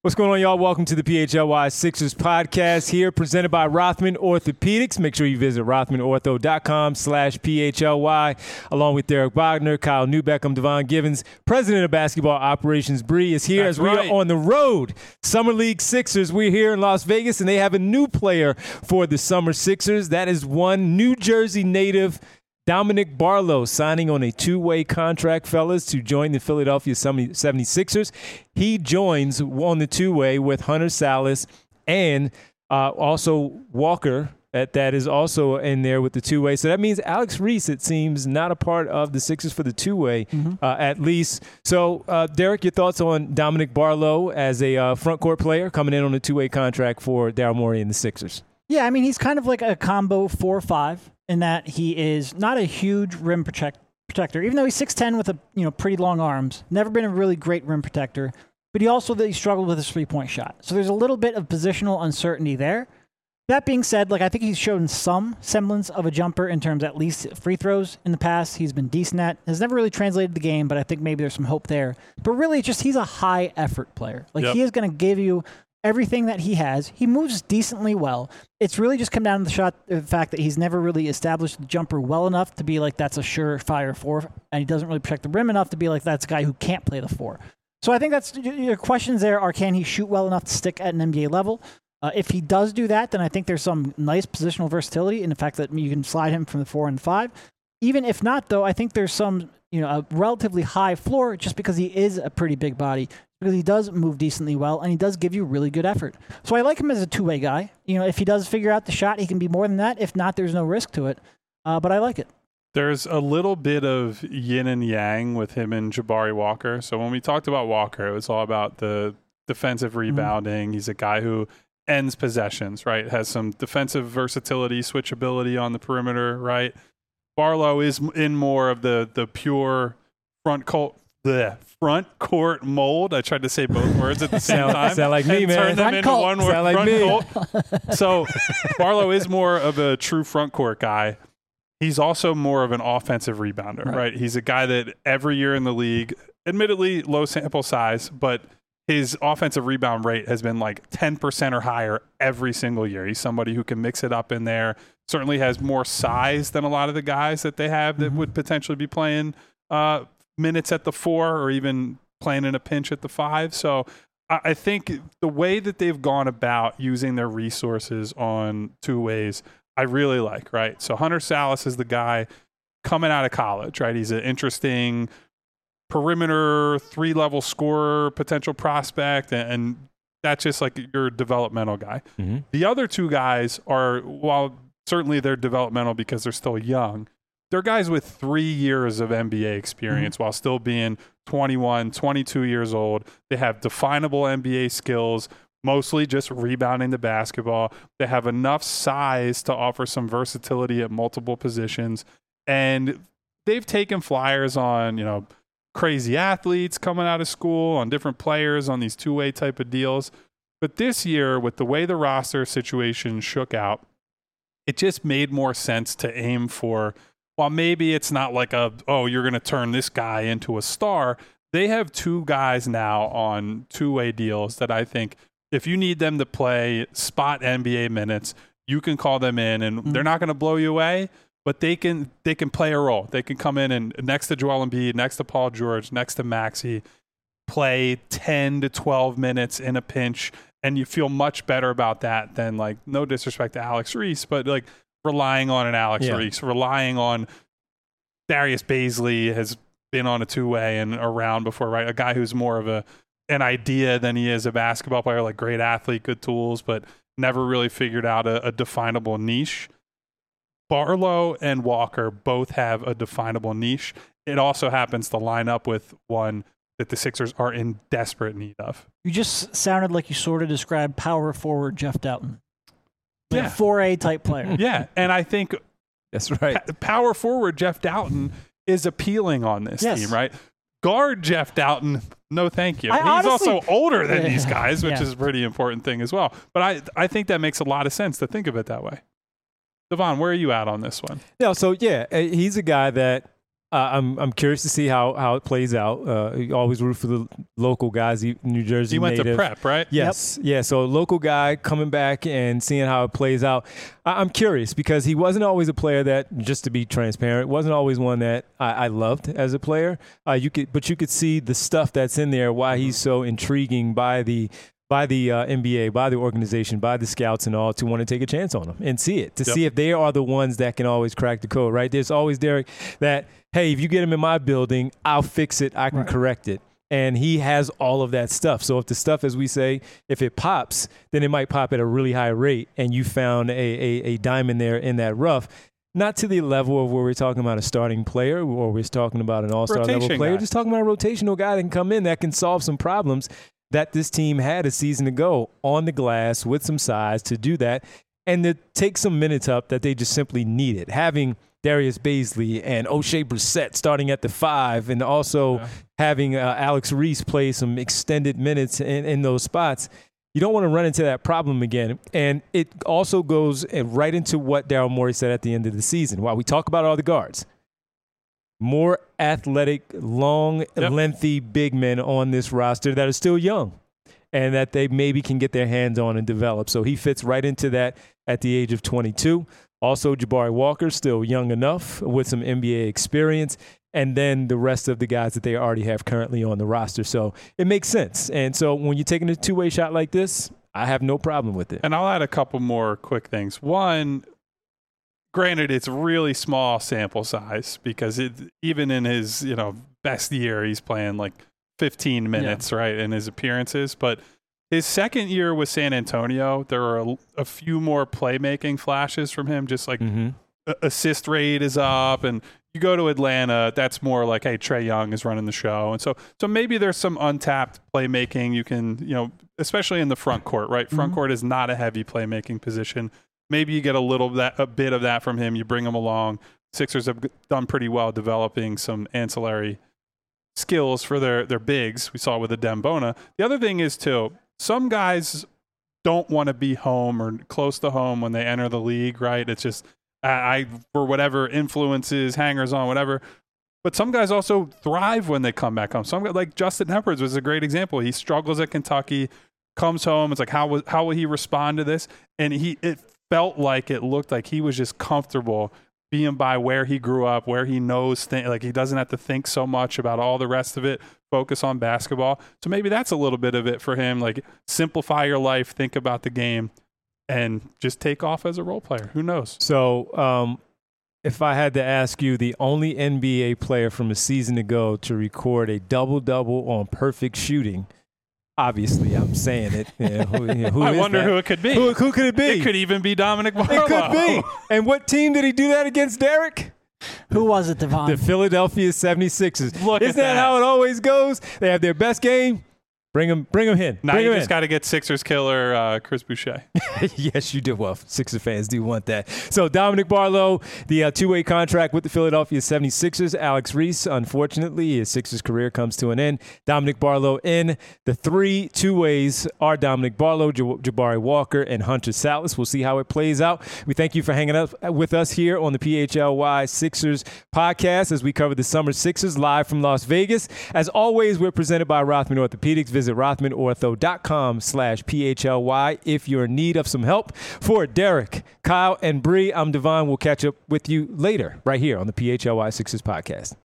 What's going on, y'all? Welcome to the PHLY Sixers podcast here, presented by Rothman Orthopedics. Make sure you visit rothmanortho.com/PHLY, along with Derek Wagner, Kyle Newbeck. I'm Devon Givens, president of basketball operations. Bree is here. That's as we right. are on the road. Summer League Sixers. We're here in Las Vegas, and they have a new player for the Summer Sixers. That is one New Jersey native, Dominic Barlow, signing on a two-way contract, fellas, to join the Philadelphia 76ers. He joins on the two-way with Hunter Salas and also Walker. That is also in there with the two-way. So that means Alex Reese, it seems, not a part of the Sixers for the two-way, at least. So, Derek, your thoughts on Dominic Barlow as a front court player coming in on a two-way contract for Daryl Morey and the Sixers? Yeah, I mean, he's kind of like a combo 4-5 in that he is not a huge rim protector, even though he's 6'10" with pretty long arms. Never been a really great rim protector, but he struggled with his three-point shot. So there's a little bit of positional uncertainty there. That being said, I think he's shown some semblance of a jumper in terms at least free throws in the past. He's been decent at. Has never really translated the game, but I think maybe there's some hope there. But really, he's a high-effort player. He is going to give you everything that he has. He moves decently well. It's really just come down to the fact that he's never really established the jumper well enough to be like that's a surefire four, and he doesn't really protect the rim enough to be like that's a guy who can't play the four. So I think that's your questions there are, can he shoot well enough to stick at an NBA level? If he does do that, then I think there's some nice positional versatility in the fact that you can slide him from the 4 and 5. Even if not, though, I think there's some a relatively high floor just because he is a pretty big body, because he does move decently well, and he does give you really good effort. So I like him as a two-way guy. If he does figure out the shot, he can be more than that. If not, there's no risk to it. But I like it. There's a little bit of yin and yang with him and Jabari Walker. So when we talked about Walker, it was all about the defensive rebounding. He's a guy who ends possessions, right? Has some defensive versatility, switchability on the perimeter, right? Barlow is in more of the pure front court mold. I tried to say both words at the same time. Sound like me, man. Turn them into one word. Sound like front me. court. So Barlow is more of a true front court guy. He's also more of an offensive rebounder, right? He's a guy that every year in the league, admittedly low sample size, but his offensive rebound rate has been like 10% or higher every single year. He's somebody who can mix it up in there. Certainly has more size than a lot of the guys that they have that would potentially be playing minutes at the 4 or even playing in a pinch at the 5. So I think the way that they've gone about using their resources on two ways, I really like, right? So Hunter Salas is the guy coming out of college, right? He's an interesting perimeter 3-level scorer, potential prospect, and that's just like your developmental guy. The other two guys are, while certainly they're developmental because they're still young, they're guys with 3 years of NBA experience while still being 21, 22 years old. They have definable NBA skills, mostly just rebounding the basketball. They have enough size to offer some versatility at multiple positions, and they've taken flyers on, crazy athletes coming out of school, on different players on these two-way type of deals. But this year, with the way the roster situation shook out, it just made more sense to aim for, while maybe it's not like you're going to turn this guy into a star, they have two guys now on two-way deals that I think if you need them to play spot NBA minutes, you can call them in, and they're not going to blow you away, but they can play a role. They can come in and next to Joel Embiid, next to Paul George, next to Maxey, play 10 to 12 minutes in a pinch, and you feel much better about that than, no disrespect to Alex Reese, but relying on an Alex Reese, relying on Darius Baisley has been on a two-way and around before, right? A guy who's more of an idea than he is a basketball player, great athlete, good tools, but never really figured out a definable niche. Barlow and Walker both have a definable niche. It also happens to line up with one that the Sixers are in desperate need of. You just sounded like you sort of described power forward Jeff Doughton. A 4A type player. Yeah, and I think that's right. Power forward Jeff Doughton is appealing on this team, right? Guard Jeff Doughton, no thank you. He's also older than these guys, which is a pretty important thing as well. But I think that makes a lot of sense to think of it that way. Devon, where are you at on this one? He's a guy that I'm curious to see how it plays out. You always root for the local guys, New Jersey He went native. to prep, right? Yes. Yeah. So local guy coming back and seeing how it plays out. I'm curious because he wasn't always a player that, just to be transparent, wasn't always one that I loved as a player. You could see the stuff that's in there, why he's so intriguing by the NBA, by the organization, by the scouts and all, to want to take a chance on him and see it, to see if they are the ones that can always crack the code, right? There's always, Derek, that, hey, if you get him in my building, I'll fix it, I can correct it. And he has all of that stuff. So if the stuff, as we say, if it pops, then it might pop at a really high rate, and you found a diamond there in that rough. Not to the level of where we're talking about a starting player or we're talking about an all-star level player. Guy. Just talking about a rotational guy that can come in that can solve some problems that this team had a season ago on the glass with some size to do that and to take some minutes up that they just simply needed. Having Darius Baisley and O'Shea Brissett starting at the 5 and also having Alex Reese play some extended minutes in those spots, you don't want to run into that problem again. And it also goes right into what Daryl Morey said at the end of the season. While we talk about all the guards, more athletic, long, lengthy big men on this roster that are still young and that they maybe can get their hands on and develop. So he fits right into that at the age of 22. Also, Jabari Walker, still young enough with some NBA experience. And then the rest of the guys that they already have currently on the roster. So it makes sense. And so when you're taking a two-way shot like this, I have no problem with it. And I'll add a couple more quick things. One, granted, it's really small sample size because even in his best year, he's playing like 15 minutes, right, in his appearances. But his second year with San Antonio, there were a few more playmaking flashes from him, just like assist rate is up. And you go to Atlanta, that's more like, hey, Trae Young is running the show. And so maybe there's some untapped playmaking you can, especially in the front court, right? Front court is not a heavy playmaking position. Maybe you get a bit of that from him. You bring him along. Sixers have done pretty well developing some ancillary skills for their bigs. We saw with the Dembona. The other thing is, too, some guys don't want to be home or close to home when they enter the league, right? It's just, for whatever influences, hangers on, whatever. But some guys also thrive when they come back home. Some guys, like Justin Edwards was a great example. He struggles at Kentucky, comes home. It's like, how will he respond to this? And it looked like he was just comfortable being by where he grew up, where he knows things. Like, he doesn't have to think so much about all the rest of it, focus on basketball. So maybe that's a little bit of it for him. Like, simplify your life, think about the game, and just take off as a role player. Who knows? So if I had to ask you, the only NBA player from a season ago to record a double-double on perfect shooting, obviously, I'm saying it. Who I is wonder that? who it could be. Who could it be? It could even be Dominic Barlow. It could be. And what team did he do that against, Derek? Who was it, Devon? The Philadelphia 76ers. Look at Isn't that how it always goes? They have their best game. Bring him in. Now Bring you him just got to get Sixers killer Chris Boucher. Yes, you do. Well, Sixers fans do want that. So Dominic Barlow, the two-way contract with the Philadelphia 76ers. Alex Reese, unfortunately, his Sixers career comes to an end. Dominic Barlow in. The 3 two-ways are Dominic Barlow, Jabari Walker, and Hunter Salas. We'll see how it plays out. We thank you for hanging out with us here on the PHLY Sixers podcast as we cover the Summer Sixers live from Las Vegas. As always, we're presented by Rothman Orthopedics. Visit rothmanortho.com/PHLY if you're in need of some help. For Derek, Kyle, and Bree, I'm Devon. We'll catch up with you later right here on the PHLY Sixers podcast.